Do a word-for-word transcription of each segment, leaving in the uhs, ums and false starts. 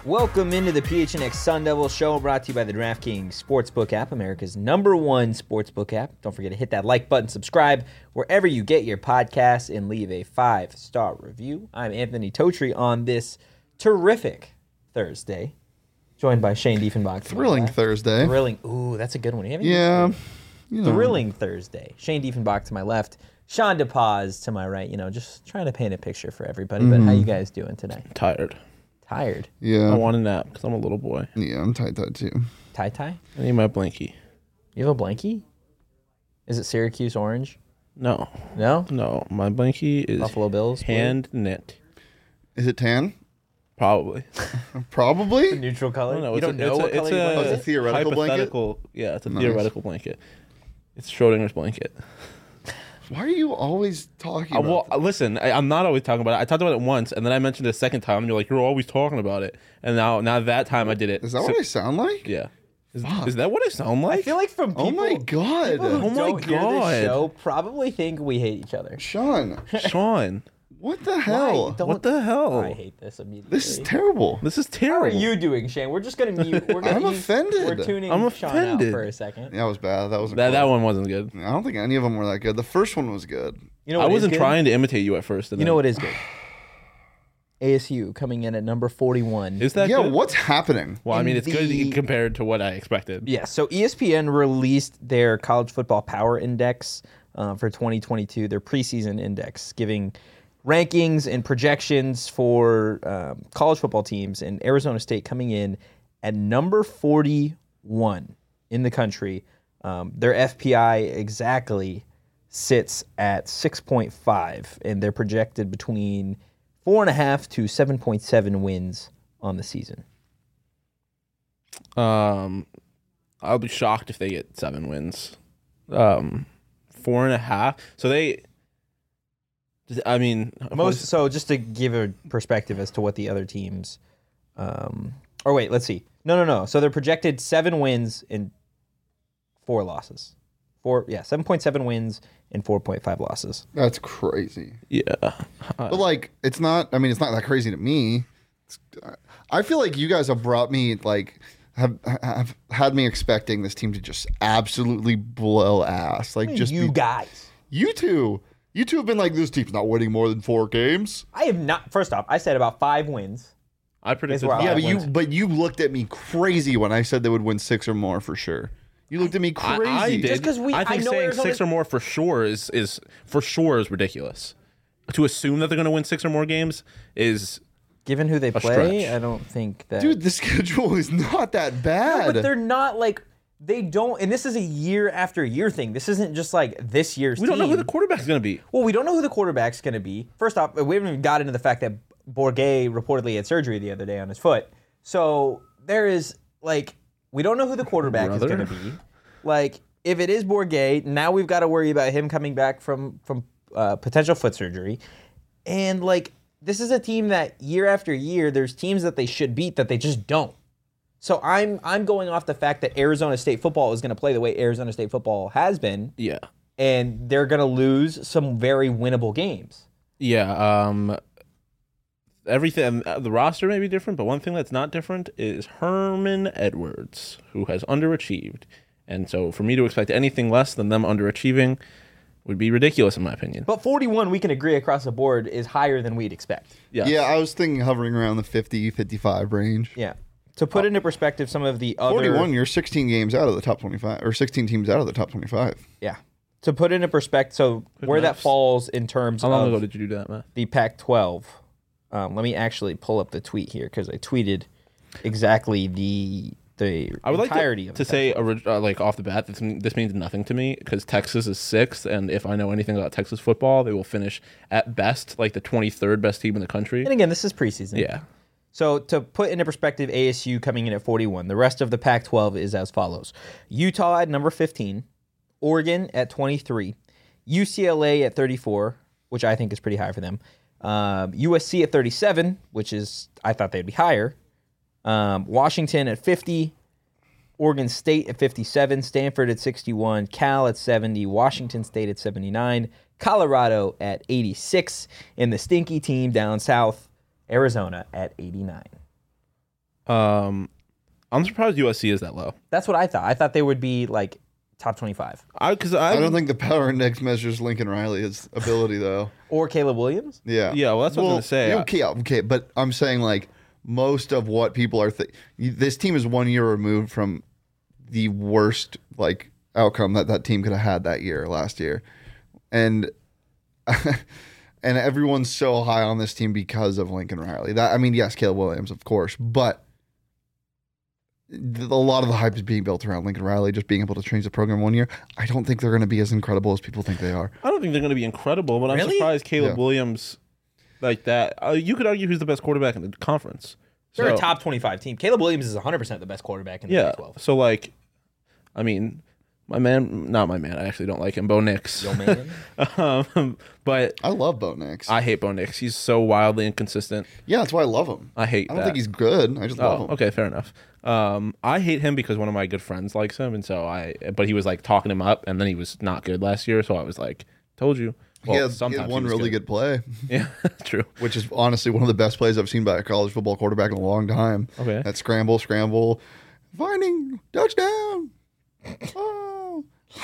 Welcome into the P H N X Sun Devil Show, brought to you by the DraftKings Sportsbook app, America's number one sportsbook app. Don't forget to hit that like button, subscribe wherever you get your podcasts, and leave a five-star review. I'm Anthony Totri on this terrific Thursday, joined by Shane Diefenbach. Thrilling Thursday. Thrilling. Ooh, that's a good one. Yeah. You know. Thrilling Thursday. Shane Diefenbach to my left, Sean DePaz to my right. You know, just trying to paint a picture for everybody. Mm. But how you guys doing today? Tired. Tired? Yeah. I want a nap because I'm a little boy. Yeah, I'm tight-tied too. Tie-tie? I need my blankie. You have a blankie? Is it Syracuse orange? No. No? No. My blankie is Buffalo Bills? hand knit. Is it tan? Probably. Probably? Neutral color? No, no, you it's don't a, know it's what a, color it's your a, blanket Oh, is? it's a theoretical blanket? hypothetical, Yeah, it's a Nice. theoretical blanket. It's Schrodinger's blanket. Why are you always talking Uh, about well, listen, I, I'm not always talking about it. I talked about it once, and then I mentioned it a second time, and you're like, you're always talking about it. And now, now that time I did it. Is that So- what I sound like? Yeah. Is, is that what I sound like? I feel like from people, Oh my God. people who Oh my don't hear God. this show probably think we hate each other. Sean, Sean, what the hell? Why? Don't- what the hell? I hate this immediately. This is terrible. This is How terrible. are you doing, Shane? We're just going to mute. We're gonna I'm use- offended. We're tuning I'm Sean out offended. for a second. That was bad. That was That, that one wasn't good. I don't think any of them were that good. The first one was good. You know I what is wasn't good? trying to imitate you at first. And You then- know what is good? A S U coming in at number forty-one. Is that yeah, good? what's happening? Well, I in mean, it's the- good compared to what I expected. Yeah, so E S P N released their College Football Power Index uh, for twenty twenty-two, their preseason index, giving rankings and projections for um, college football teams, and Arizona State coming in at number forty-one in the country. Um, their F P I exactly sits at six point five, and they're projected between four and a half to seven point seven wins on the season. Um, I'll be shocked if they get seven wins. Um, four and a half. So they. I mean, Most so just to give a perspective as to what the other teams, um, or wait, let's see. No, no, no. So they're projected seven wins and four losses. Four, yeah, seven point seven wins and four point five losses. That's crazy. Yeah. But like, it's not. I mean, it's not that crazy to me. It's, I feel like you guys have brought me like have have had me expecting this team to just absolutely blow ass. Like just you be, guys. you two, you two have been like, this team's not winning more than four games. I have not. First off, I said about five wins. I predicted. where I- Yeah, five but you wins. but you looked at me crazy when I said they would win six or more for sure. You looked at me I, crazy. I did. Just 'cause we- I I think know saying Arizona- six or more for sure is is for sure is ridiculous. To assume that they're going to win six or more games is Given who they play, stretch. I don't think that. Dude, the schedule is not that No, bad. but they're not like they don't. And this is a year after year thing. This isn't just like this year's. we don't know who team. the quarterback's going to be. Well, we don't know who the quarterback's going to be. First off, we haven't even got into the fact that Bourget reportedly had surgery the other day on his foot. So there is, like, we don't know who the quarterback Brother. is going to be. Like, if it is Bourget, now we've got to worry about him coming back from, from uh, potential foot surgery. And, like, this is a team that year after year, there's teams that they should beat that they just don't. So I'm I'm going off the fact that Arizona State football is going to play the way Arizona State football has been, Yeah. and they're going to lose some very winnable games. Yeah. Um. Everything. The roster may be different, but one thing that's not different is Herman Edwards, who has underachieved, and so for me to expect anything less than them underachieving would be ridiculous, in my opinion. But forty-one, we can agree across the board, is higher than we'd expect. Yes. Yeah, I was thinking hovering around the fifty, fifty-five range. Yeah. To put into perspective some of the other... forty-one, you're sixteen games out of the top twenty-five, or sixteen teams out of the top twenty-five. Yeah. To put into perspective, so where that maths. falls in terms How long of ago did you do that, Matt? the Pac twelve, um, let me actually pull up the tweet here because I tweeted exactly the the I would like entirety to, of to the say Pac twelve. orig- uh, like off the bat, this, this means nothing to me because Texas is sixth, and if I know anything about Texas football, they will finish at best like the twenty-third best team in the country. And again, this is preseason. Yeah. So to put into perspective, A S U coming in at forty-one. The rest of the Pac twelve is as follows. Utah at number fifteen, Oregon at twenty-three, U C L A at thirty-four, which I think is pretty high for them, um, U S C at thirty-seven, which is, I thought they'd be higher, um, Washington at fifty, Oregon State at fifty-seven, Stanford at sixty-one, Cal at seventy, Washington State at seventy-nine, Colorado at eighty-six, and the stinky team down south, Arizona at eighty-nine. Um, I'm surprised U S C is that low. That's what I thought. I thought they would be like top twenty-five. I because I, I don't think the power index measures Lincoln Riley's ability though. Or Caleb Williams. Yeah. Yeah, well, that's what I was gonna say. yeah, Okay, okay, but I'm saying like most of what people are. Th- this team is one year removed from the worst like outcome that that team could have had that year last year, and and everyone's so high on this team because of Lincoln Riley. That I mean, yes, Caleb Williams, of course, but a lot of the hype is being built around Lincoln Riley just being able to change the program one year. I don't think they're going to be as incredible as people think they are. I don't think they're going to be incredible, but I'm Really? surprised Caleb Yeah. Williams like that. Uh, you could argue who's the best quarterback in the conference. They're So- a top twenty-five team. Caleb Williams is one hundred percent the best quarterback in the Yeah. Big twelve. So like, I mean, my man, not my man. I actually don't like him, Bo Nix. Yo, man. um, but I love Bo Nix. I hate Bo Nix. He's so wildly inconsistent. yeah, that's why I love him. I hate. I don't that. think he's good. I just love Oh, him. okay, fair enough. Um, I hate him because one of my good friends likes him, and so I. But he was like talking him up, and then he was not good last year. So I was like, "Told you." Well, he, had, he sometimes had one was really good. play, Yeah, true. which is honestly one of the best plays I've seen by a college football quarterback in a long time. Okay. That scramble, scramble, finding touchdown. Oh.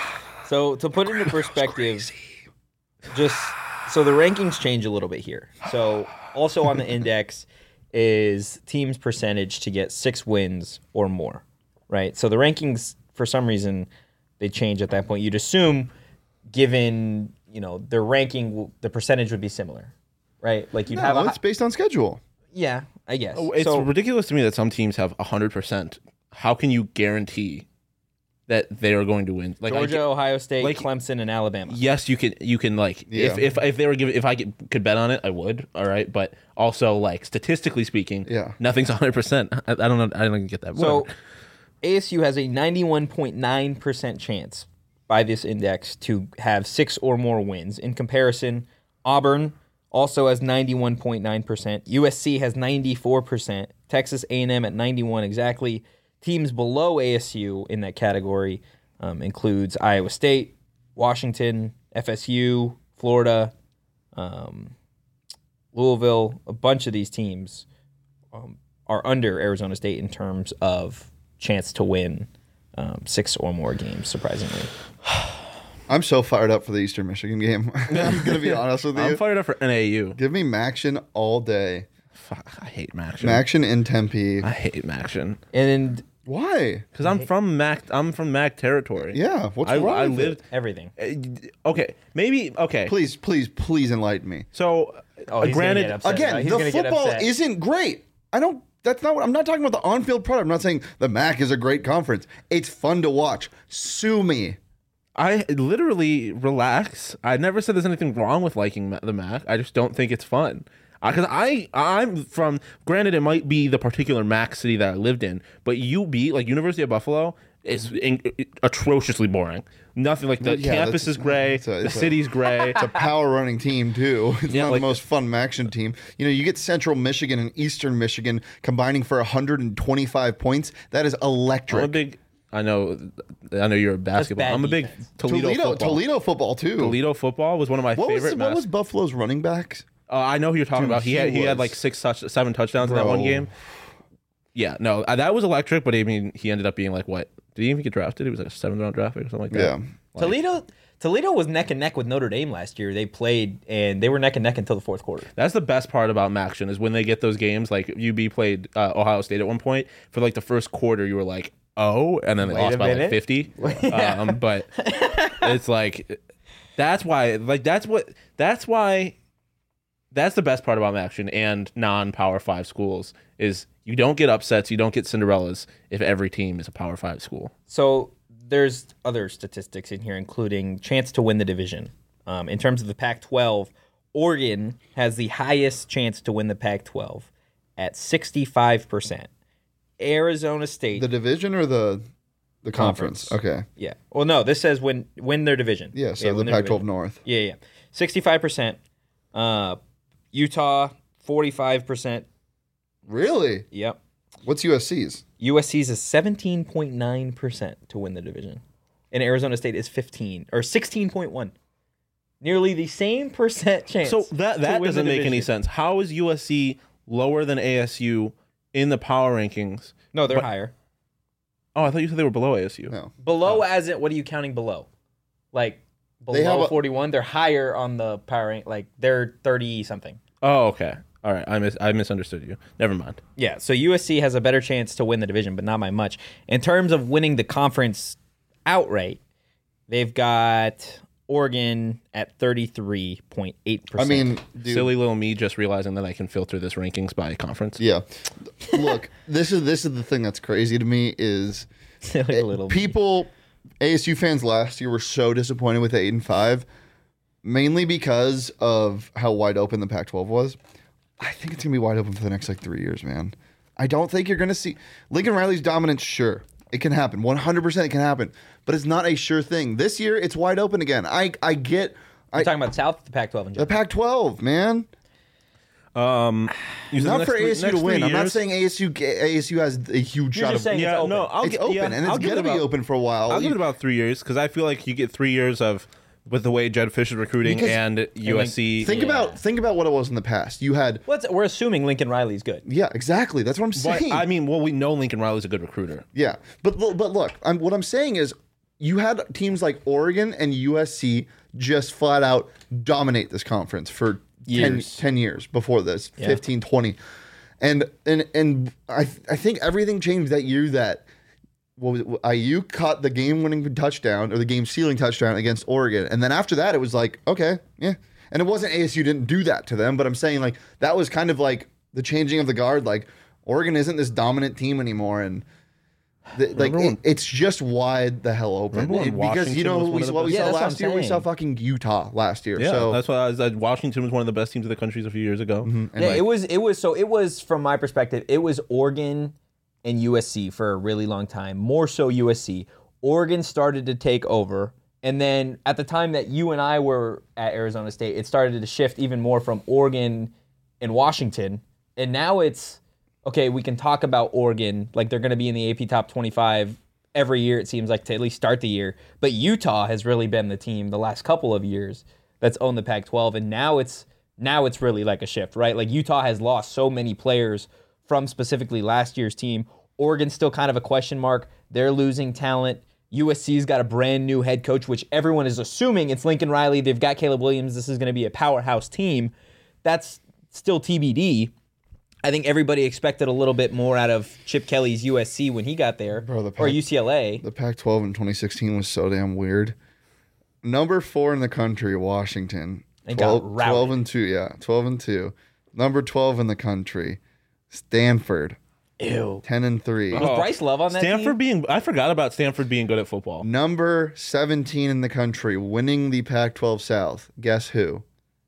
So to put into perspective, just so the rankings change a little bit here. So also on the index is teams' percentage to get six wins or more, right? So the rankings, for some reason, they change at that point. You'd assume, given you know their ranking, the percentage would be similar, right? Like you'd have No, a it's based on schedule. yeah, I guess. Oh, it's so ridiculous to me that some teams have one hundred percent. How can you guarantee that they are going to win? Like I Georgia, get- Ohio State, like- Clemson, and Alabama. yes, you can. You can like if, Yeah. if if they were given if I could, could bet on it, I would. All right, but also like statistically speaking, Yeah. nothing's one hundred percent. I I don't know. I don't get that. So Whatever. A S U has a ninety-one point nine percent chance by this index to have six or more wins. In comparison, Auburn also has ninety-one point nine percent. U S C has ninety-four percent. Texas A and M at ninety-one exactly. Teams below A S U in that category um, includes Iowa State, Washington, F S U, Florida, um, Louisville. A bunch of these teams um, are under Arizona State in terms of chance to win um, six or more games, surprisingly. I'm so fired up for the Eastern Michigan game. I'm gonna be honest with you. I'm fired up for N A U. Give me Maction all day. Fuck, I hate Maction. Maction in Tempe. I hate Maction And Why? because I'm from Mac. I'm from Mac territory. Yeah. What's I, wrong I with lived. everything. uh, Okay, maybe. Okay, it? Please, please, please enlighten me. so Oh, uh, he's gonna granted, get upset. Again, He's the gonna get football upset. isn't great. I don't. That's not what I'm not talking about. The on-field product. I'm not saying the M A C is a great conference. It's fun to watch. Sue me. I literally relax. I never said there's anything wrong with liking Ma- the Mac. I just don't think it's fun. Because I, I'm from. Granted, it might be the particular Mac city that I lived in, but U B, like University of Buffalo, is in, atrociously boring. Nothing like the Yeah, campus that's- is gray, it's a- the it's a- city's gray. It's a power running team too. It's Yeah, not like- the most fun Maction team. You know, you get Central Michigan and Eastern Michigan combining for one hundred twenty-five points. That is I'm a electric. big. I know. I know you're a basketball. bad I'm a big defense. Toledo, Toledo, football. Toledo football too. Toledo football was one of my What was, favorite. what mas- was Buffalo's running backs? Uh, I know who you're talking Dude, about. He, he had he had was- like six touch, seven touchdowns in that Bro. one game. Yeah, no, uh, that was electric. But I mean, he ended up being like what? Did he even get drafted? He was like a seventh round draft pick or something like that. Yeah. Like, Toledo Toledo was neck and neck with Notre Dame last year. They played and they were neck and neck until the fourth quarter. That's the best part about Maction is when they get those games. Like U B played uh, Ohio State at one point for like the first quarter. You were like, oh, and then they Wait lost a by like minute. fifty. Yeah. Um, but it's like that's why. Like that's what. That's why. That's the best part about Maction and non-Power Five schools is you don't get upsets, you don't get Cinderellas if every team is a Power Five school. So there's other statistics in here, including chance to win the division. Um, in terms of the Pac twelve, Oregon has the highest chance to win the Pac twelve at sixty-five percent. Arizona State, The division or the the conference? Conference. Okay. yeah. Well, no, this says win win their division. Yeah. So win the their Pac twelve division. North. Yeah, yeah. sixty-five percent. Uh, Utah, forty-five percent. Really? Yep. What's U S C's? U S C's is seventeen point nine percent to win the division. And Arizona State is fifteen or sixteen point one. Nearly the same percent chance. So that to that win the doesn't make any division. sense. How is U S C lower than A S U in the power rankings. No, they're But- higher. Oh, I thought you said they were below A S U. No. Below, as in, what are you counting below? Like They have below a- forty-one, they're higher on the power rank. Like they're thirty something. Oh, okay. All right. I mis- I misunderstood you. Never mind. Yeah, so U S C has a better chance to win the division, but not by much. In terms of winning the conference outright, they've got Oregon at thirty-three point eight I percent. mean, dude, Silly little me just realizing that I can filter this rankings by conference. yeah. Look, this is this is the thing that's crazy to me is silly little people, A S U fans last year were so disappointed with eight and five, mainly because of how wide open the Pac twelve was. I think it's gonna be wide open for the next like three years, man. I don't think you're gonna see Lincoln Riley's dominance. Sure, it can happen. one hundred percent it can happen, but it's not a sure thing. This year, it's wide open again. I I get. I, You're talking about South, the Pac twelve in the general. Pac twelve, man. Um, you said the Not next for three- A S U next to win. three I'm not years? saying A S U ga- A S U has a huge You're shot just of. saying Yeah, it's open. no, I'll It's get, open, yeah, and I'll it's give gonna it be about- open for a while. I'll give it about three years because I feel like you get three years of with the way Jed Fish is recruiting Because- and U S C. Think Yeah. about think about what it was in the past. You had Well, it's- we're assuming Lincoln Riley's good. yeah, exactly. That's what I'm But, saying. I mean, well, we know Lincoln Riley's a good recruiter. yeah, but lo- but look, I'm, what I'm saying is you had teams like Oregon and U S C just flat out dominate this conference for ten, Years. ten years before this, Yeah. fifteen, twenty. And and and I I think everything changed that year that well, I U caught the game-winning touchdown or the game-sealing touchdown against Oregon, and then after that, it was like, okay, yeah. And it wasn't A S U didn't do that to them, but I'm saying like that was kind of like the changing of the guard. Like Oregon isn't this dominant team anymore, and the, like Remember when- it, it's just wide the hell open. Remember when It- because you Washington know was what one we, of the what we best- saw Yeah, that's what last I'm year. We saw saying. fucking Utah last year. Yeah, so that's why I was, uh, Washington was one of the best teams of the country a few years ago. and Yeah, like, it was it was so it was from my perspective, it was Oregon and U S C for a really long time. More so U S C. Oregon started to take over, and then at the time that you and I were at Arizona State, it started to shift even more from Oregon and Washington. And now it's okay, we can talk about Oregon, like they're going to be in the A P top twenty-five every year, it seems like, to at least start the year. But Utah has really been the team the last couple of years that's owned the Pac twelve, and now it's now it's really like a shift, right? Like Utah has lost so many players from specifically last year's team. Oregon's still kind of a question mark. They're losing talent. U S C's got a brand new head coach, which everyone is assuming it's Lincoln Riley. They've got Caleb Williams. This is going to be a powerhouse team. That's still T B D. I think everybody expected a little bit more out of Chip Kelly's U S C when he got there, Bro, the or Pac- U C L A. the Pac twelve in twenty sixteen was so damn weird. Number four in the country, Washington. They got twelve, routed. twelve and two, yeah, twelve and two. Number twelve in the country, Stanford, Ew. ten and three. Was Bryce Love on that Stanford team? being, I forgot about Stanford being good at football. Number seventeen in the country, winning the Pac twelve South. Guess who?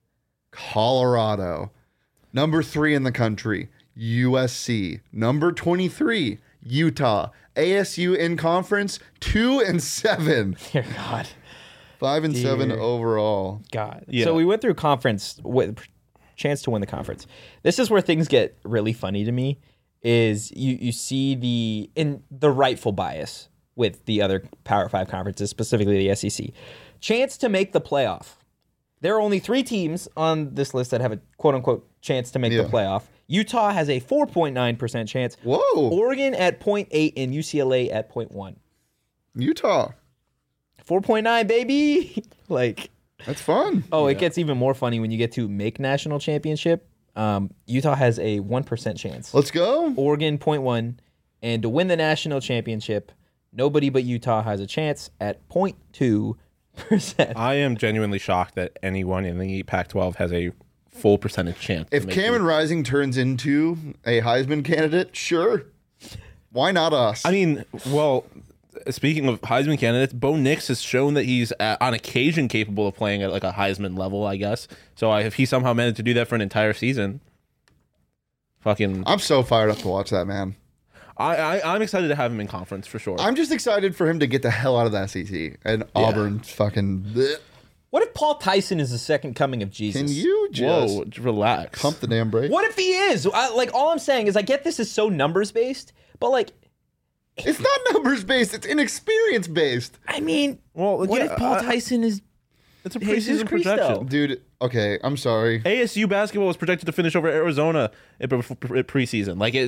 Colorado. Number three in the country, U S C. Number twenty-three, Utah. A S U in conference, two and seven. Dear God. Five and seven Dear overall. God. Yeah. So we went through conference with chance to win the conference. This is where things get really funny to me. Is you you see the in the rightful bias with the other Power Five conferences, specifically the S E C. Chance to make the playoff. There are only three teams on this list that have a quote unquote chance to make Yeah. the playoff. Utah has a four point nine percent chance. Whoa. Oregon at zero point eight and U C L A at zero point one. Utah. four point nine, baby. Like, That's fun. oh, it gets even more funny when you get to make national championship. Um, Utah has a one percent chance. Let's go. Oregon zero point one, and to win the national championship, nobody but Utah has a chance at zero point two percent. I am genuinely shocked that anyone in the Pac twelve has a full percentage chance. to If make Cameron the- Rising turns into a Heisman candidate, sure. Why not us? I mean, well, speaking of Heisman candidates, Bo Nix has shown that he's uh, on occasion capable of playing at like a Heisman level, I guess. So I, if he somehow managed to do that for an entire season, fucking, I'm so fired up to watch that, man. I, I I'm excited to have him in conference for sure. I'm just excited for him to get the hell out of the S E C and Auburn fucking. bleh. What if Paul Tyson is the second coming of Jesus? Can you just Whoa, j- relax. pump the damn brake? What if he is? I, like, all I'm saying is, I get this is so numbers based, but like, It's not numbers based. It's inexperience based, I mean, Well, what yeah, if Paul I- Tyson is? It's a Jesus preseason Christo. projection. dude. Okay, I'm sorry. A S U basketball was projected to finish over Arizona at pre- at preseason. Like it, it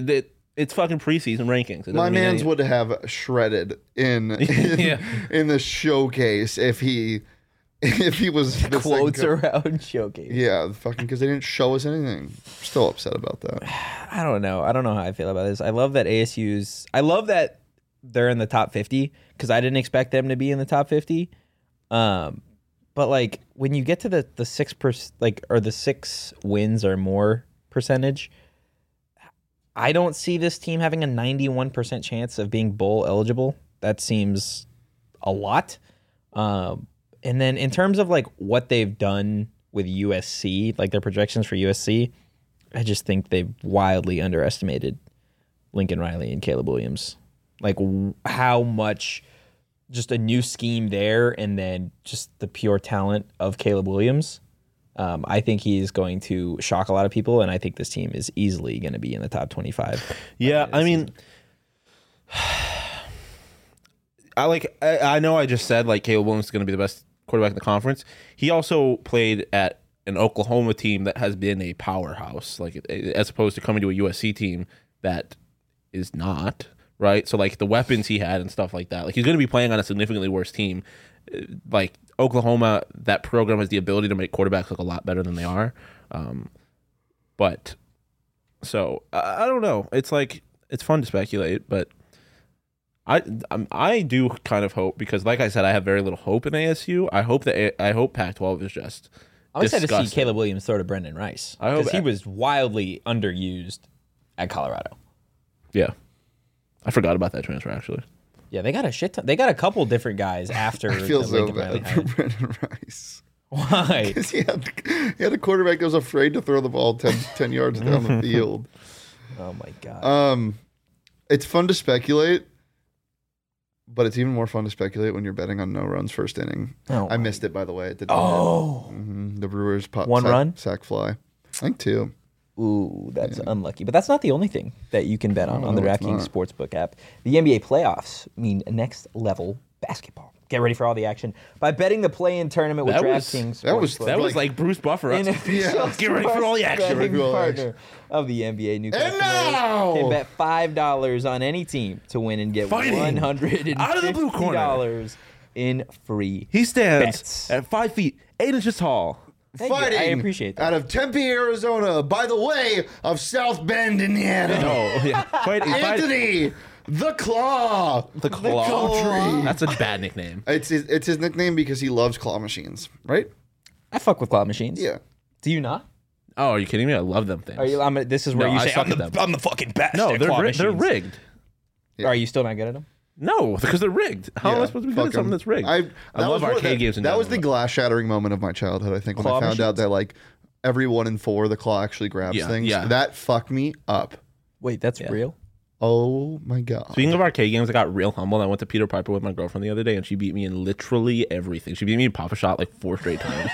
it's fucking preseason rankings. It doesn't My mean man's any- would have shredded in in, Yeah. in the showcase if he if he was this Quotes thing- around showcase. Yeah, fucking because they didn't show us anything. Still upset about that. I don't know. I don't know how I feel about this. I love that A S U's. I love that they're in the top fifty because I didn't expect them to be in the top fifty. Um, but like when you get to the the six per like or the six wins or more percentage, I don't see this team having a ninety-one percent chance of being bowl eligible. That seems a lot. Um, and then in terms of like what they've done with U S C, like their projections for U S C, I just think they've wildly underestimated Lincoln Riley and Caleb Williams. Like w- how much just a new scheme there and then just the pure talent of Caleb Williams. Um, I think he's going to shock a lot of people, and I think this team is easily going to be in the top twenty-five. Yeah, I mean, I like. I, I know I just said like Caleb Williams is going to be the best quarterback in the conference. He also played at an Oklahoma team that has been a powerhouse, like as opposed to coming to a U S C team that is not, right? So like the weapons he had and stuff like that. Like he's going to be playing on a significantly worse team. Like Oklahoma, that program has the ability to make quarterbacks look a lot better than they are. Um, but so I, I don't know. It's like it's fun to speculate, but I I'm, I do kind of hope because, like I said, I have very little hope in A S U. I hope that A- I hope Pac twelve is just. I'm excited to see disgusting. Caleb Williams throw to Brendan Rice I hope because he a- was wildly underused at Colorado. Yeah, I forgot about that transfer actually. Yeah, they got a shit ton. They got a couple different guys after I feel the so Lincoln Riley bad for hired. Brendan Rice. Why? Because he had, he had a quarterback that was afraid to throw the ball ten, ten yards down the field. Oh my god. Um, it's fun to speculate, but it's even more fun to speculate when you're betting on no runs first inning. Oh I my- missed it, by the way. It did Oh. hmm The Brewers pop One sack, run? sack fly. I think two. Ooh, that's unlucky. But that's not the only thing that you can bet on No, on the no, it's DraftKings not. Sportsbook app. The N B A playoffs mean next level basketball. Get ready for all the action by betting the play-in tournament with That was- DraftKings. that was- Sportsbook. That was Like- like Bruce Buffer. An official Yeah. Get ready for all the sports action. betting Ready for all the partner of the N B A. New And customers now- can bet five dollars on any team to win and get Fighting one hundred out of the blue corner. dollars in free He stands bets. at five feet eight inches tall. Thank you. Fighting I appreciate that. out of Tempe, Arizona, by the way of South Bend, Indiana. Oh yeah, fight, fight Anthony, the Claw. the claw. Country. That's a bad nickname. It's his, it's his nickname because he loves claw machines, right? I fuck with claw machines. Yeah. Do you not? Oh, are you kidding me? I love them things. Are you? I'm, this is where No, you I say suck I'm at the, them. I'm the fucking best. no, at they're claw ri- they're machines. rigged. Are you still not good at them? No, because they're rigged. How am I Yeah, supposed to be fuck good at something 'em. that's rigged? I, I that love was one of arcade the- games in That was the general. glass shattering moment of my childhood, I think, when Claw I found out machines? that like every one in four the claw actually grabs Yeah, things. yeah. That fucked me up. Wait, that's Yeah. real? Oh my god. Speaking of arcade games, I got real humble. I went to Peter Piper with my girlfriend the other day, and she beat me in literally everything. She beat me in Papa Shot like four straight times.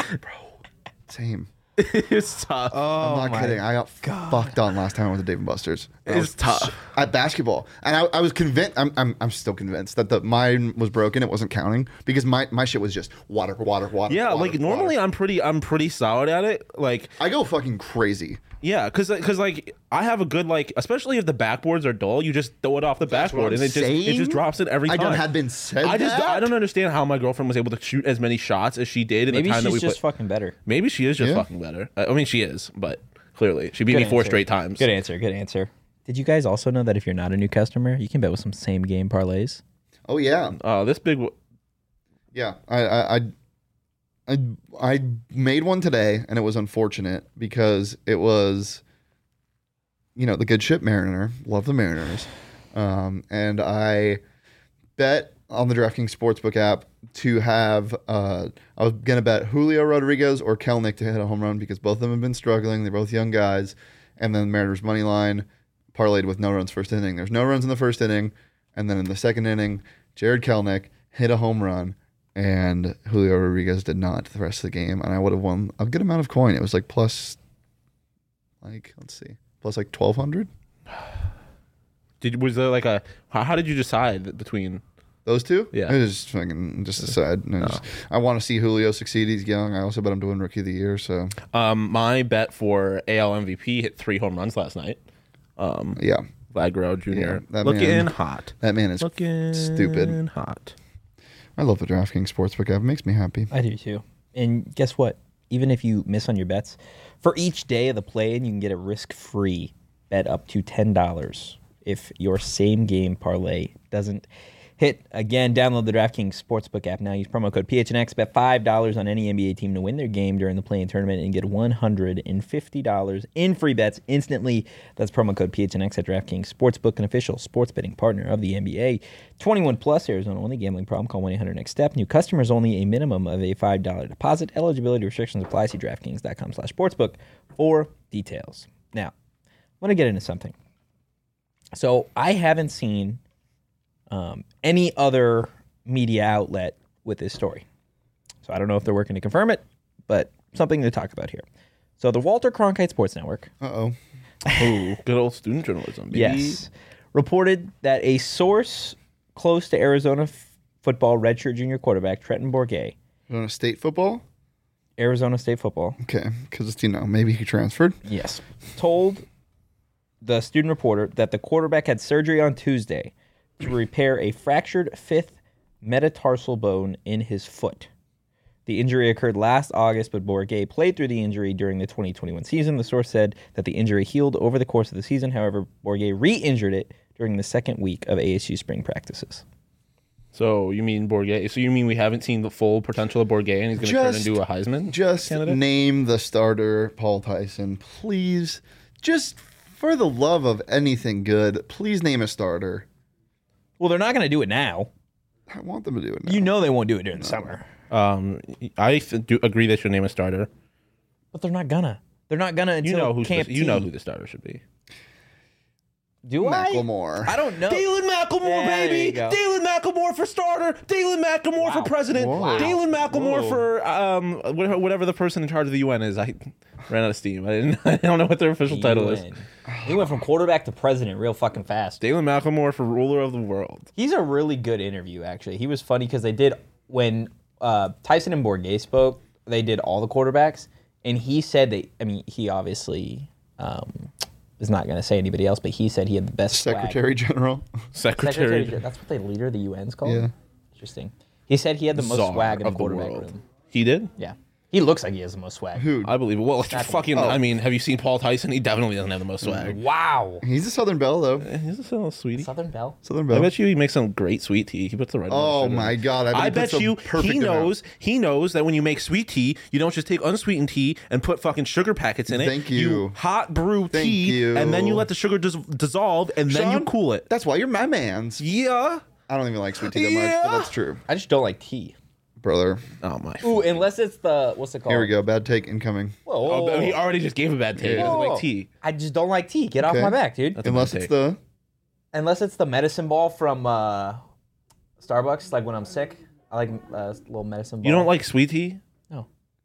Same. It's tough. Oh, I'm not kidding. I got fucked on last time I went to Dave and Buster's. I It's was tough. s- at basketball, and I, I was convinced. I'm, I'm I'm still convinced that the mine was broken. It wasn't counting because my, my shit was just water, water, water. yeah, water, like normally water. I'm pretty I'm pretty solid at it. Like I go fucking crazy. yeah, because because like I have a good like especially if the backboards are dull, you just throw it off the That's what backboard I'm and it just it saying. just drops it every I time. don't had been said I just that. I don't understand how my girlfriend was able to shoot as many shots as she did in Maybe the time she's that we just played. fucking better. Maybe she is just Yeah. fucking better. I I mean, she is, but clearly she beat Good me four answer. straight times. Good answer. Good answer. Did you guys also know that if you're not a new customer, you can bet with some same game parlays? Oh yeah, Oh, this big. w- yeah. I I I I, I made one today, and it was unfortunate because it was, you know, the good ship Mariner. Love the Mariners, um, and I bet on the DraftKings Sportsbook app to have. Uh, I was gonna bet Julio Rodriguez or Kelnick to hit a home run because both of them have been struggling. They're both young guys, and then Mariners money line parlayed with no runs first inning. There's no runs in the first inning, and then in the second inning, Jared Kelnick hit a home run, and Julio Rodriguez did not the rest of the game, and I would have won a good amount of coin. It was like plus, like let's see, plus like twelve hundred. Did was there like a how, how did you decide between? Those two? Yeah. I just fucking just decide. I, just, I want to see Julio succeed. He's young. I also bet him to win Rookie of the Year. So Um, my bet for A L M V P hit three home runs last night. Um, yeah, Vlad Guerrero Junior Yeah, that looking man- hot. That man is Looking stupid. hot. I love the DraftKings Sportsbook app. It makes me happy. I do too. And guess what? Even if you miss on your bets, for each day of the play-in, you can get a risk-free bet up to ten dollars if your same game parlay doesn't hit. Again, download the DraftKings Sportsbook app now. Use promo code P H N X. Bet five dollars on any N B A team to win their game during the play-in tournament and get one hundred fifty dollars in free bets instantly. That's promo code P H N X at DraftKings Sportsbook, an official sports betting partner of the N B A. twenty-one plus, Arizona only. Gambling problem, call one eight hundred next step. New customers only. A minimum of a five dollars deposit. Eligibility restrictions apply. See DraftKings.com slash sportsbook for details. Now, I want to get into something. So I haven't seen um, any other media outlet with this story. So I don't know if they're working to confirm it, but something to talk about here. So the Walter Cronkite Sports Network, Uh-oh. Ooh, good old student journalism. Baby. yes, reported that a source close to Arizona f- football redshirt junior quarterback Trenton Bourguet, On a state football? Arizona State football, Okay, because, you know, maybe he transferred. yes, told the student reporter that the quarterback had surgery on Tuesday to repair a fractured fifth metatarsal bone in his foot. The injury occurred last August, but Bourguet played through the injury during the twenty twenty-one season. The source said that the injury healed over the course of the season. However, Bourguet re-injured it during the second week of A S U spring practices. So you mean Bourguet? So you mean we haven't seen the full potential of Bourguet, and he's going to turn Just- into a Heisman Just candidate? name the starter, Paul Tyson. Please, just for the love of anything good, please name a starter. Well, they're not going to do it now. I want them to do it now. You know they won't do it during the summer. Um, I th- do agree they should name a starter. But they're not gonna. They're not gonna until You know who Camp you know T. who the starter should be. Do I? Macklemore. I don't know. Dalen McElmore, Yeah, there baby. you go. Dalen McElmore for starter. Dalen McElmore Wow. for president. Whoa. Dalen McElmore Whoa. for um whatever, whatever the person in charge of the U N is. I ran out of steam. I didn't. I don't know what their official title is. U N. He went from quarterback to president real fucking fast. Dalen McElmore for ruler of the world. He's a really good interview, actually. He was funny because they did, when uh, Tyson and Bourguet spoke, they did all the quarterbacks, and he said that, I mean, he obviously um, is not going to say anybody else, but he said he had the best swag. Secretary General. Secretary. Secretary. That's what the leader of the U N's called? Yeah. Interesting. He said he had the most Czar swag in the of the quarterback world. room. He did. Yeah. He looks like he has the most swag. Who? I believe it. Well, fucking. I mean, have you seen Paul Tyson? He definitely doesn't have the most swag. Wow. He's a Southern Belle, though. He's a little sweetie. Southern Belle? Southern I Belle. bet you he makes some great sweet tea. He puts the right. amount of Oh sugar. my God! I bet, I he bet puts the you perfect he amount. knows he knows that when you make sweet tea, you don't just take unsweetened tea and put fucking sugar packets in it. Thank you. hot brew Thank tea, you. and then you let the sugar dis- dissolve, and then you Sean? cool it. That's why you're my man's. Yeah. I don't even like sweet tea that much, Yeah. but that's true, I just don't like tea. brother. Oh my. Ooh, unless it's the, what's it called? Here we go. Bad take incoming. Whoa, Oh, whoa, but he whoa. already just gave a bad take. He doesn't Whoa. like tea. I just don't like tea. Get Okay. off my back, dude. That's a Unless bad it's take. the Unless it's the medicine ball from uh, Starbucks, like when I'm sick. I like uh, a little medicine ball. You don't like sweet tea? No.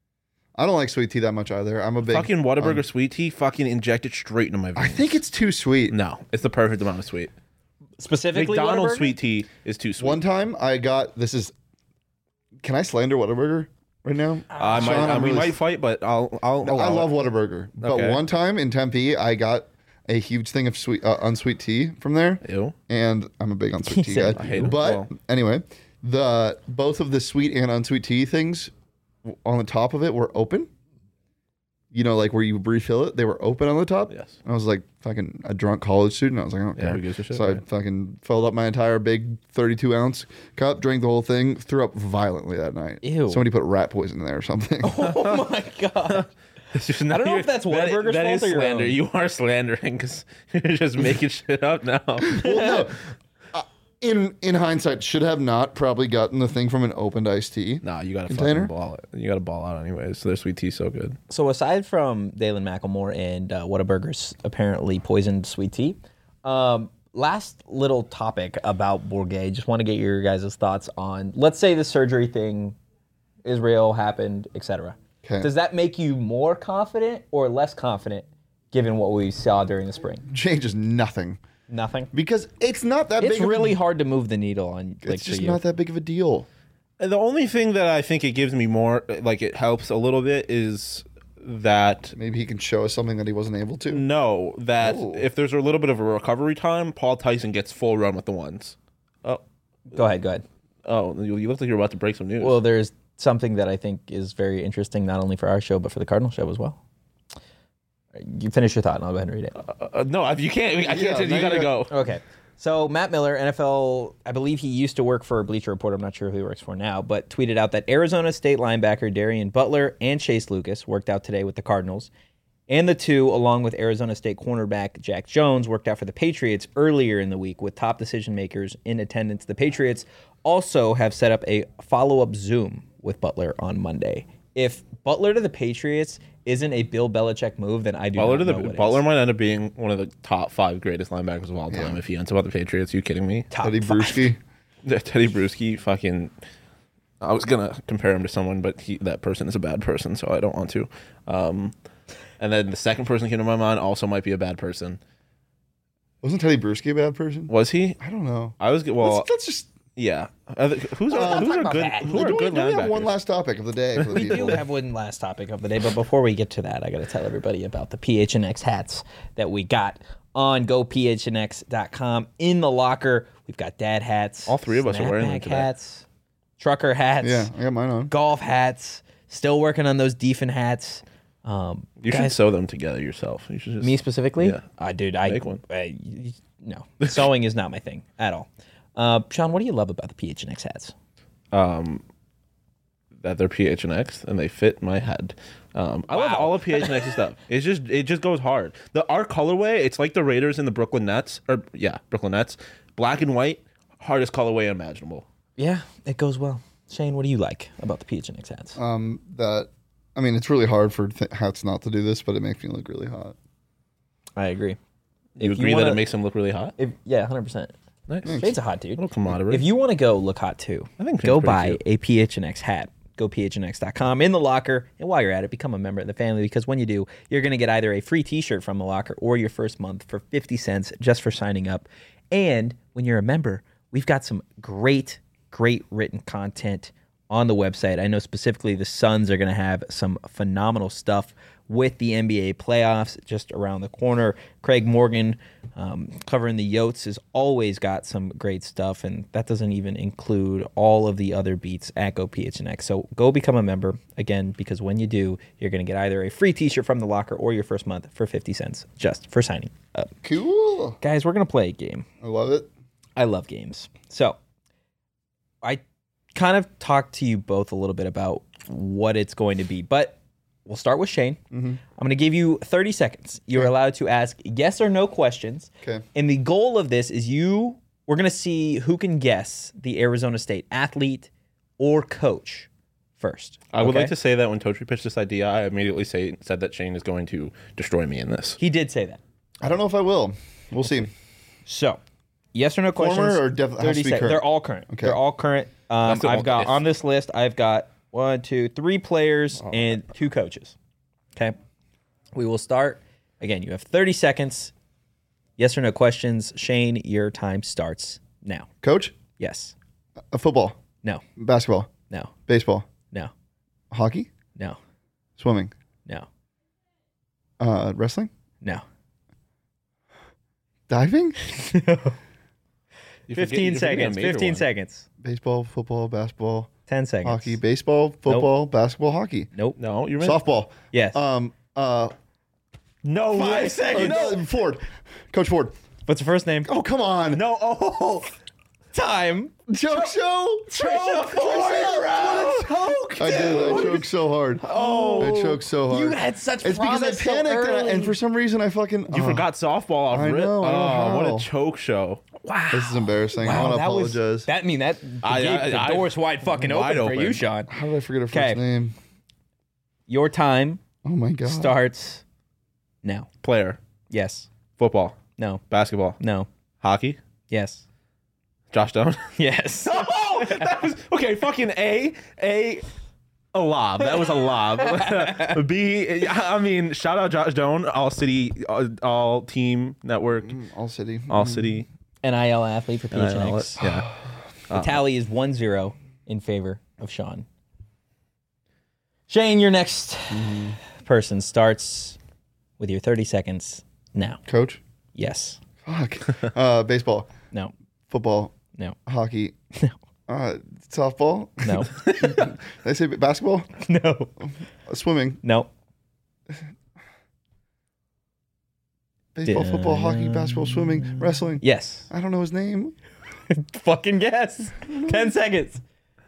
I don't like sweet tea that much either. I'm a big Fucking Whataburger um, sweet tea. Fucking inject it straight into my veins. I think it's too sweet. no. It's the perfect amount of sweet. Specifically McDonald's Whataburger? sweet tea is too sweet. One time I got this is. Can I slander Whataburger right now? I might, Sean, uh, I'm we really- might fight, but I'll. I'll No, I allow love it. Whataburger, but Okay. one time in Tempe, I got a huge thing of sweet, uh, unsweet tea from there, Ew. and I'm a big He unsweet tea said guy. I hate it. But Well. anyway, the both of the sweet and unsweet tea things w- on the top of it were open. You know, like where you refill it, they were open on the top. Yes. I was like fucking a drunk college student. I was like, I don't Yeah, care. who gives a shit, so I right? fucking filled up my entire big thirty-two ounce cup, drank the whole thing, threw up violently that night. Ew. Somebody put rat poison in there or something. Oh my god. It's just I don't know if that's that- Whataburger's That is fault or your slander. own. You are slandering because you're just making shit up now. Well, no. Uh, in in hindsight, should have not probably gotten the thing from an opened iced tea. Nah, you gotta Container? fucking ball it. You gotta ball out anyways. So their sweet tea's so good. So aside from Dalen McElmore and uh, Whataburger's apparently poisoned sweet tea, um, last little topic about Bourguet. Just want to get your guys' thoughts on, let's say the surgery thing is real, happened, et cetera. Okay. Does that make you more confident or less confident given what we saw during the spring? Changes nothing Nothing. because it's not that It's big. of a- really hard to move the needle on. Like, It's for just you. not that big of a deal. And the only thing that I think it gives me more, like it helps a little bit, is that Maybe he can show us something that he wasn't able to. no, that Oh. if there's a little bit of a recovery time, Paul Tyson gets full run with the ones. Oh, Go ahead, go ahead. oh, you, you look like you're about to break some news. Well, there's something that I think is very interesting, not only for our show, but for the Cardinal show as well. You finish your thought, and I'll go ahead and read it. uh, no, you can't. I can't. Yeah, say now you gotta you go. Okay. So Matt Miller, N F L, I believe he used to work for Bleacher Report. I'm not sure who he works for now, but tweeted out that Arizona State linebacker Darian Butler and Chase Lucas worked out today with the Cardinals. And the two, along with Arizona State cornerback Jack Jones, worked out for the Patriots earlier in the week with top decision makers in attendance. The Patriots also have set up a follow-up Zoom with Butler on Monday. If Butler to the Patriots isn't a Bill Belichick move, then I do Butler not to the know what Butler is. might end up being one of the top five greatest linebackers of all time Yeah. if he ends up with the Patriots. You kidding me? Top Teddy five. Bruschi. Teddy Bruschi, fucking. I was gonna compare him to someone, but he, that person is a bad person, so I don't want to. Um, and then the second person that came to my mind also might be a bad person. Wasn't Teddy Bruschi a bad person? Was he? I don't know. I was well. let's, let's just. Yeah. Are the- who's Uh, are, who's talk are about good? that. Who are do we, good do we have one linebackers? last topic of the day for the We people? do have one last topic of the day, but before we get to that, I got to tell everybody about the P H N X hats that we got on go P H N X dot com. In the locker, we've got dad hats. All three of us are wearing them snapback today. hats, trucker hats, Yeah, I got mine on. golf hats. Still working on those Defen hats. Um, You should guys, sew them together yourself. You should just me specifically? Yeah. Uh, dude, I Make one. I- y- no, sewing is not my thing at all. Uh, Sean, what do you love about the P H N X hats? um, that they're P H N X and they fit my head. Um, I love Wow. all of P H N X's stuff. It's just it just goes hard. The our colorway, it's like the Raiders and the Brooklyn Nets, or yeah, Brooklyn Nets, black and white, hardest colorway imaginable. Yeah, it goes well. Shane, what do you like about the P H N X hats? Um, that I mean, it's really hard for th- hats not to do this, but it makes me look really hot. I agree. You If agree wanna- that it makes them look really hot? If, yeah, one hundred percent. Nice. Shane's a hot dude. little camaraderie. If you want to go look hot too, I think go Shane's pretty buy cute. a P H N X hat. Go P H N X dot com in the locker. And while you're at it, become a member of the family because when you do, you're going to get either a free t-shirt from the locker or your first month for fifty cents just for signing up. And when you're a member, we've got some great, great written content on the website. I know specifically the Suns are going to have some phenomenal stuff with the N B A playoffs just around the corner. Craig Morgan um, covering the Yotes has always got some great stuff, and that doesn't even include all of the other beats at Go P H N X. So go become a member, again, because when you do, you're going to get either a free t-shirt from the locker or your first month for fifty cents just for signing up. Cool. Guys, we're going to play a game. I love it. I love games. So I kind of talked to you both a little bit about what it's going to be, but we'll start with Shane. Mm-hmm. I'm going to give you thirty seconds. You're Okay. allowed to ask yes or no questions. Okay. And the goal of this is you, we're going to see who can guess the Arizona State athlete or coach first. I would Okay? like to say that when Totri pitched this idea, I immediately say, said that Shane is going to destroy me in this. He did say that. I don't know if I will. We'll see. So, yes or no questions. Former or def- has to thirty be sec- current? They're all current. Okay. They're all current. Um, That's the I've one- got if- on this list. I've got one, two, three players and two coaches. Okay. We will start again. You have thirty seconds. Yes or no questions. Shane, your time starts now. Coach, Yes. uh, football, No. basketball, No. baseball, No. hockey, No. swimming, No. uh, wrestling, No. diving, You forget- Fifteen you're forgetting a seconds. major Fifteen one. seconds. baseball, football, basketball, Ten seconds. hockey, baseball, football, basketball, hockey, Nope. No, you're right. softball. Yes. Um. Uh. no. Five seconds. No, Ford, Coach Ford. What's your first name? Oh, come on. No. Oh. Time. Joke show. Choke. Choke. I did. I choked so hard. Oh. I choked so hard. You had such It's because I promise so panicked and, I- early. and for some reason I fucking. You oh, forgot softball off I rip. know, I know Oh, what how. a choke show. Wow. This is embarrassing. I Wow, want to that was apologize. that. I mean that I- gave I- the I- doors wide fucking wide open, for you, open. Sean. How did I forget her first 'Kay. name? Your time Oh my god. starts now. Player, Yes. football, No. basketball, No. hockey, Yes. Josh Down. Yes. Oh, that was okay. Fucking A, A, a lob. That was a lob. B, I mean, shout out Josh Doan, all city, all, all team network, All City. all city. N I L athlete for P H N X. Yeah. The tally is one zero in favor of Sean. Shane, you're next. next person starts with your thirty seconds now. Coach. Yes. Fuck. Uh, baseball. No. Football. No. Hockey. No. Uh, softball. No. Did I say basketball? No. Uh, swimming. No. Baseball, football, hockey, basketball, swimming, wrestling. Yes. I don't know his name. Fucking guess. Ten seconds.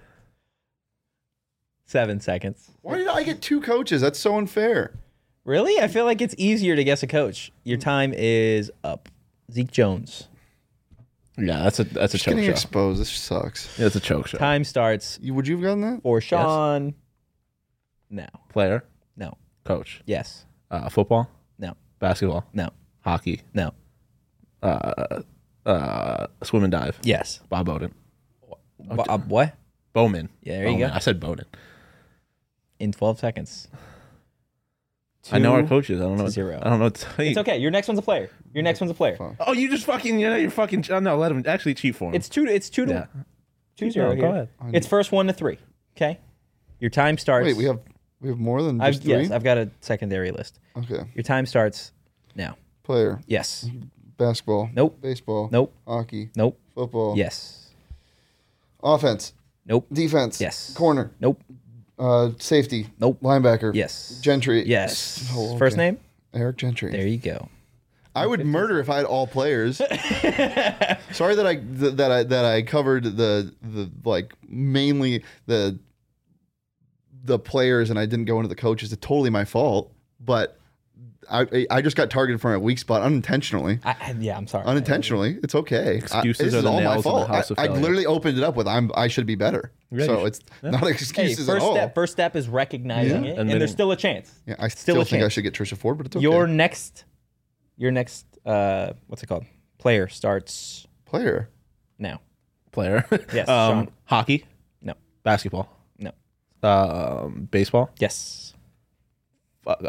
Seven seconds. Why did I get two coaches? That's so unfair. Really? I feel like it's easier to guess a coach. Your time is up. Zeke Jones. Yeah, that's a that's a Just choke getting show. exposed. This sucks. Yeah, it's a choke show. Time starts You, would you have gotten that? for Sean. No. Player, No. coach, Yes. uh, football, No. basketball, No. hockey, No. uh, uh, swim and dive. Yes. Bob Bowden. Bo- uh, what? Bowman. Yeah, there you Bowman. go. I said Bowden. In twelve seconds. I know our Two coaches. I don't know. to zero. I don't know what to tell you. It's okay. Your next one's a player. Your next one's a player. Fuck. Oh, you just fucking, you know, you're fucking. Oh, no, let him actually cheat for him. It's two. To, it's two to yeah. two zero. No, here. go ahead. It's first one to three. Okay. Your time starts. Wait, we have we have more than I've, just three? yes, I've got a secondary list. Okay. Your time starts now. Player. Yes. Basketball. Nope. Baseball. Nope. Hockey. Nope. Football. Yes. Offense. Nope. Defense. Yes. Corner. Nope. Uh, safety. Nope. Linebacker. Yes. Gentry. Yes. Oh, okay. First name? Eric Gentry. There you go. I would murder if I had all players. Sorry that I th- that I that I covered the the like mainly the the players and I didn't go into the coaches. It's totally my fault, but I I just got targeted from a weak spot unintentionally. I, I- yeah, I'm sorry. Unintentionally, it's okay. Excuses I, this are is the all my nails in the fault. house of I, I failure. literally opened it up with I'm I should be better. Yeah, you so should. it's Yeah. not Hey, excuses first at all. step. First step is recognizing Yeah. it, And and, there's then- still a chance. Yeah, I Still still, a think I chance. should get Trisha Ford, but it's okay. Your next, your next, uh, what's it called? Player starts player. now. Player. Yes, um, Sean. hockey, No. basketball, No. um, baseball. Yes. Fuck,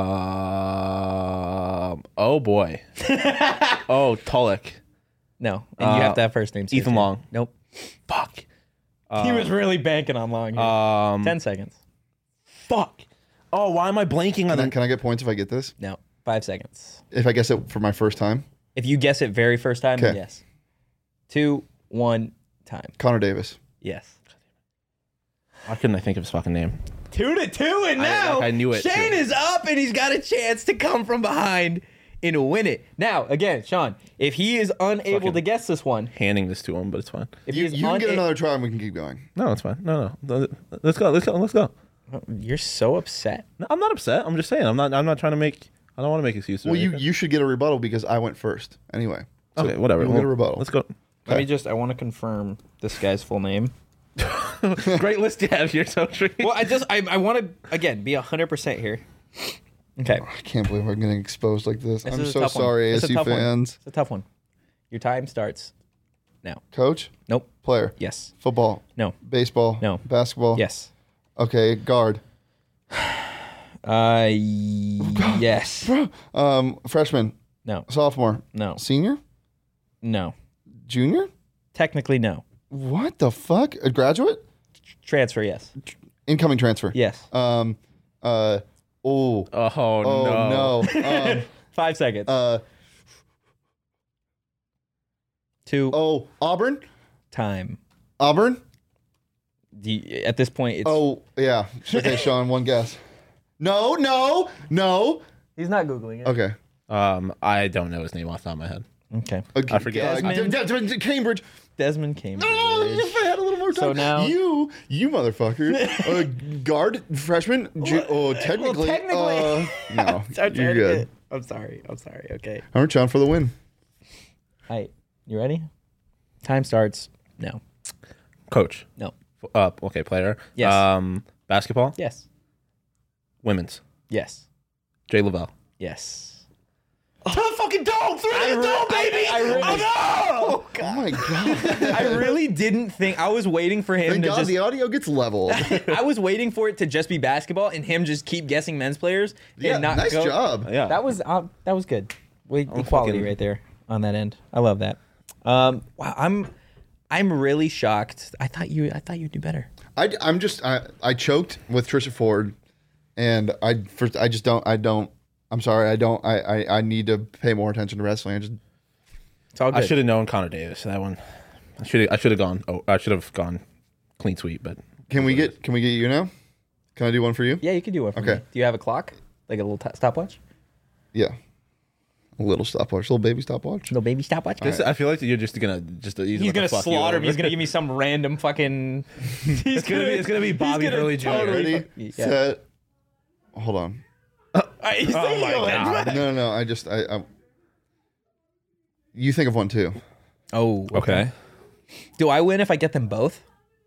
Um. oh boy. oh, Tulloch. No. And you Uh, have to have first names. Ethan here, too. Long. Nope. Fuck. he was really banking on Long. Here. Um. Ten seconds. Fuck. Oh, why am I blanking on Can I, the? can I get points if I get this? No. Five seconds. If I guess it for my first time? If you guess it very first time, then Okay. yes. Two, one, time. Connor Davis. Yes. Why couldn't I think of his fucking name? Two to two, and I- now like, I knew it, Shane too. is up, and he's got a chance to come from behind and win it. Now, again, Sean, if he is unable Fucking- to guess this one, Handing this to him, but it's fine. if You, he is you can get una- another try and we can keep going. No, it's fine. No, no. Let's go. Let's go. Let's go. You're so upset. No, I'm not upset. I'm just saying. I'm not. I'm not trying to make. I don't want to make excuses. or Well, you, anything. you should get a rebuttal because I went first. Anyway. So Okay, whatever. You'll get a Well, rebuttal. Let's go. Let me just, I want to confirm this guy's full name. Great list you have here, Totri. Well, I just, I, I want to, again, be one hundred percent here. Okay. I can't believe I'm getting exposed like this. This I'm is a so tough one. sorry, It's a A S U tough one. fans. It's a tough one. Your time starts now. Coach? Nope. Player? Yes. Football? No. Baseball? No. Basketball? Yes. Okay, guard. Uh, yes. Um, freshman? No. Sophomore? No. Senior? No. Junior? Technically, no. What the fuck? A graduate? Transfer, yes. Incoming transfer? Yes. Um, uh, oh. Oh, Oh, no. no. Um, Five seconds. uh, Two. oh, Auburn? Time. Auburn? Do you- at this point, it's. Oh, yeah. Okay, Sean, one guess. No, no, no. He's not Googling it. Okay. Um, I don't know his name off the top of my head. Okay. okay. I forget. Uh, Desmond. D- D- D- Cambridge. Desmond Cambridge. Oh, if I had a little more time. So now- you, you motherfucker, uh, guard freshman. Ju- oh, technically, technically. uh, no, I'm trying you're to good. get- I'm sorry. I'm sorry. Okay. All right, John, for the win. All right. You ready? Time starts now. Coach. No. F- Uh, okay, player. Yes. Um, basketball. Yes. Women's. Yes. Jay Lavelle. Yes. To the fucking dome! Through I the re- dome, baby! I- I really- oh no! Oh my god! I really didn't think. I was waiting for him Thank to God just. the audio gets leveled. I was waiting for it to just be basketball and him just keep guessing men's players and yeah, not nice go. job. Yeah. That was uh, that was good. We, I'm equality fucking- right there on that end. I love that. Um, wow, I'm I'm really shocked. I thought you I thought you'd do better. I, I'm just I, I choked with Trisha Ford, and I first I just don't I don't I'm sorry I don't I I, I need to pay more attention to wrestling. I just It's all good. I should have known Connor Davis. That one, I should I should have gone. Oh, I should have gone clean sweep. But can we get can we get you now? Can I do one for you? Yeah, you can do one for Okay. me. Do you have a clock? Like a little t- stopwatch? Yeah, a little stopwatch, little baby stopwatch. Little baby stopwatch? this, I feel like you're just gonna just he's, He's gonna slaughter me. He's gonna give me some random fucking. He's It's gonna be it's gonna be Bobby gonna Hurley Junior totally- Ready, Yeah. set. Hold on. Oh my God. No, no, no. I just I. I you think of one too. Oh, Okay. Do I win if I get them both?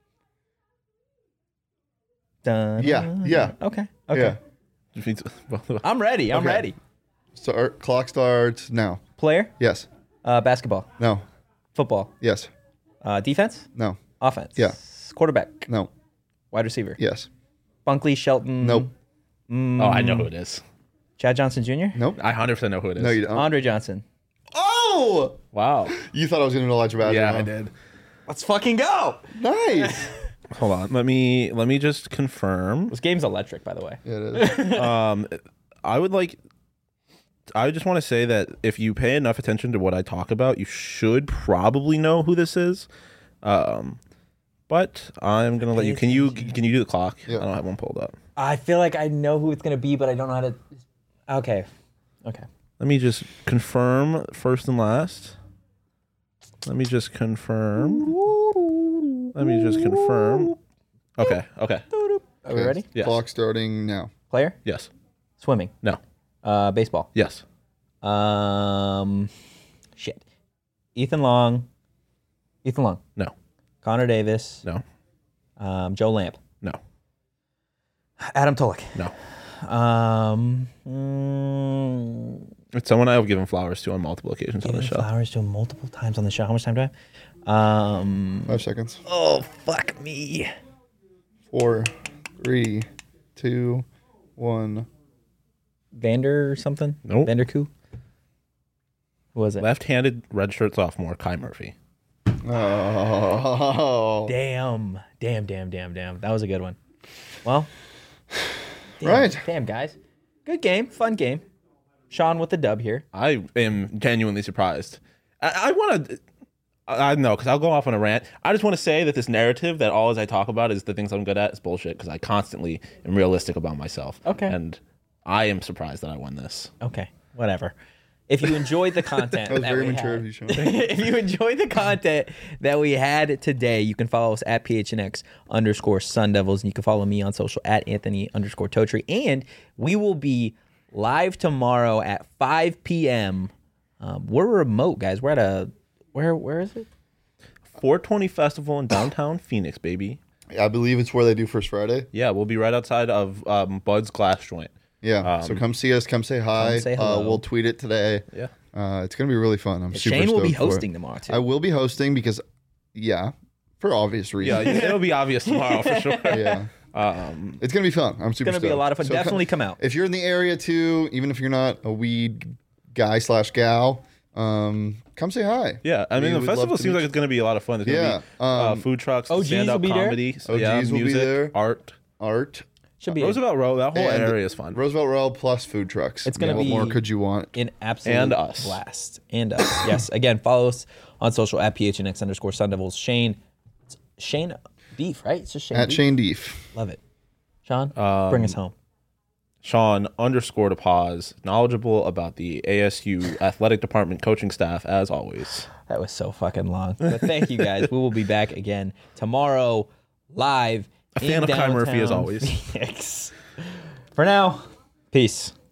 Dun, Yeah, yeah. Okay. Okay. Yeah. I'm ready. I'm Okay. ready. Start. Clock starts now. Player, Yes. uh, basketball, No. football, Yes. uh, defense, No. offense. Yeah. Quarterback, No. wide receiver. Yes. Bunkley, Shelton. Nope. Mm, Oh, I know who it is. Chad Johnson Junior Nope. I one hundred percent know who it is. No, you don't. Andre Johnson. Oh! Wow. You thought I was going to know Elijah Badger. Yeah, huh? I did. Let's fucking go. Nice. Hold on. Let me let me just confirm. This game's electric, by the way. Yeah, it is. Um, I would like. I just want to say that if you pay enough attention to what I talk about, you should probably know who this is. Um, but I'm gonna let you. Can you can you do the clock? Yeah. I don't have one pulled up. I feel like I know who it's gonna be, but I don't know how to. Okay. Okay. Let me just confirm first and last. Let me just confirm. Let me just confirm. Okay. Okay. Are we ready? Yes. Clock starting now. Player, Yes. swimming, No. uh, baseball. Yes. Um, shit. Ethan Long. Ethan Long. No. Connor Davis. No. Um, Joe Lamp. No. Adam Tulloch. No. Um, mm, It's someone I have given flowers to on multiple occasions on the given show. flowers to him multiple times on the show. How much time do I have? Um, Five seconds. oh, fuck me. Four, three, two, one. Vander or something? Nope. Vander Koo? Who was it? Left-handed redshirt sophomore Kai Murphy. Oh. Damn. Damn, damn, damn, damn. That was a good one. Well, damn, Right. Damn, guys. Good game. Fun game. Sean with the dub here. I am genuinely surprised. I, I want to. I I don't know, because I'll go off on a rant. I just want to say that this narrative that all as I talk about is the things I'm good at is bullshit, because I constantly am realistic about myself. Okay. And I am surprised that I won this. Okay, whatever. If you enjoyed the content That was that very we mature had- of you, Sean. if you enjoyed the content that we had today, you can follow us at P H N X underscore Sun Devils, and you can follow me on social at Anthony underscore Totri. And we will be live tomorrow at five p.m. Um, we're remote, guys. We're at a where? Where is it? four twenty Festival in downtown Phoenix, baby. I believe it's where they do First Friday. Yeah, we'll be right outside of um, Bud's Glass Joint. Yeah. so come see us. Come say hi. Come say uh, hello. we'll tweet it today. Yeah. Uh, it's gonna be really fun. I'm super Shane will be stoked for it. hosting tomorrow too. I will be hosting because, yeah, for obvious Yeah, reasons. it'll be obvious tomorrow for sure. Yeah. Um, It's gonna be fun. I'm super. It's gonna be a stoked. lot of fun. So Definitely come out. If you're in the area too, even if you're not a weed guy slash gal, um, come say hi. yeah, I We mean, the would love festival to seems meet like it's going to be a lot of fun. There's Yeah, going to be uh, um, food trucks, O Gs stand-up will be there? comedy, so, O Gs yeah, will be music, there. art. Art. Should be Roosevelt Row, that whole And area is fun. Roosevelt Row plus food trucks. It's gonna What be- more could you want? an absolute And us. blast. And us. Yes. Again, follow us on social at P H N X underscore Sun Devils. Shane, it's Shane Beef, right? It's just Shane At Beef. Shane Deef. Love it. Sean, Um, bring us home. Sean underscore to pause, knowledgeable about the A S U athletic department coaching staff as always. That was so fucking long. But thank you guys. We will be back again tomorrow live. A fan in of Kai Murphy as downtown always. Phoenix. For now, peace.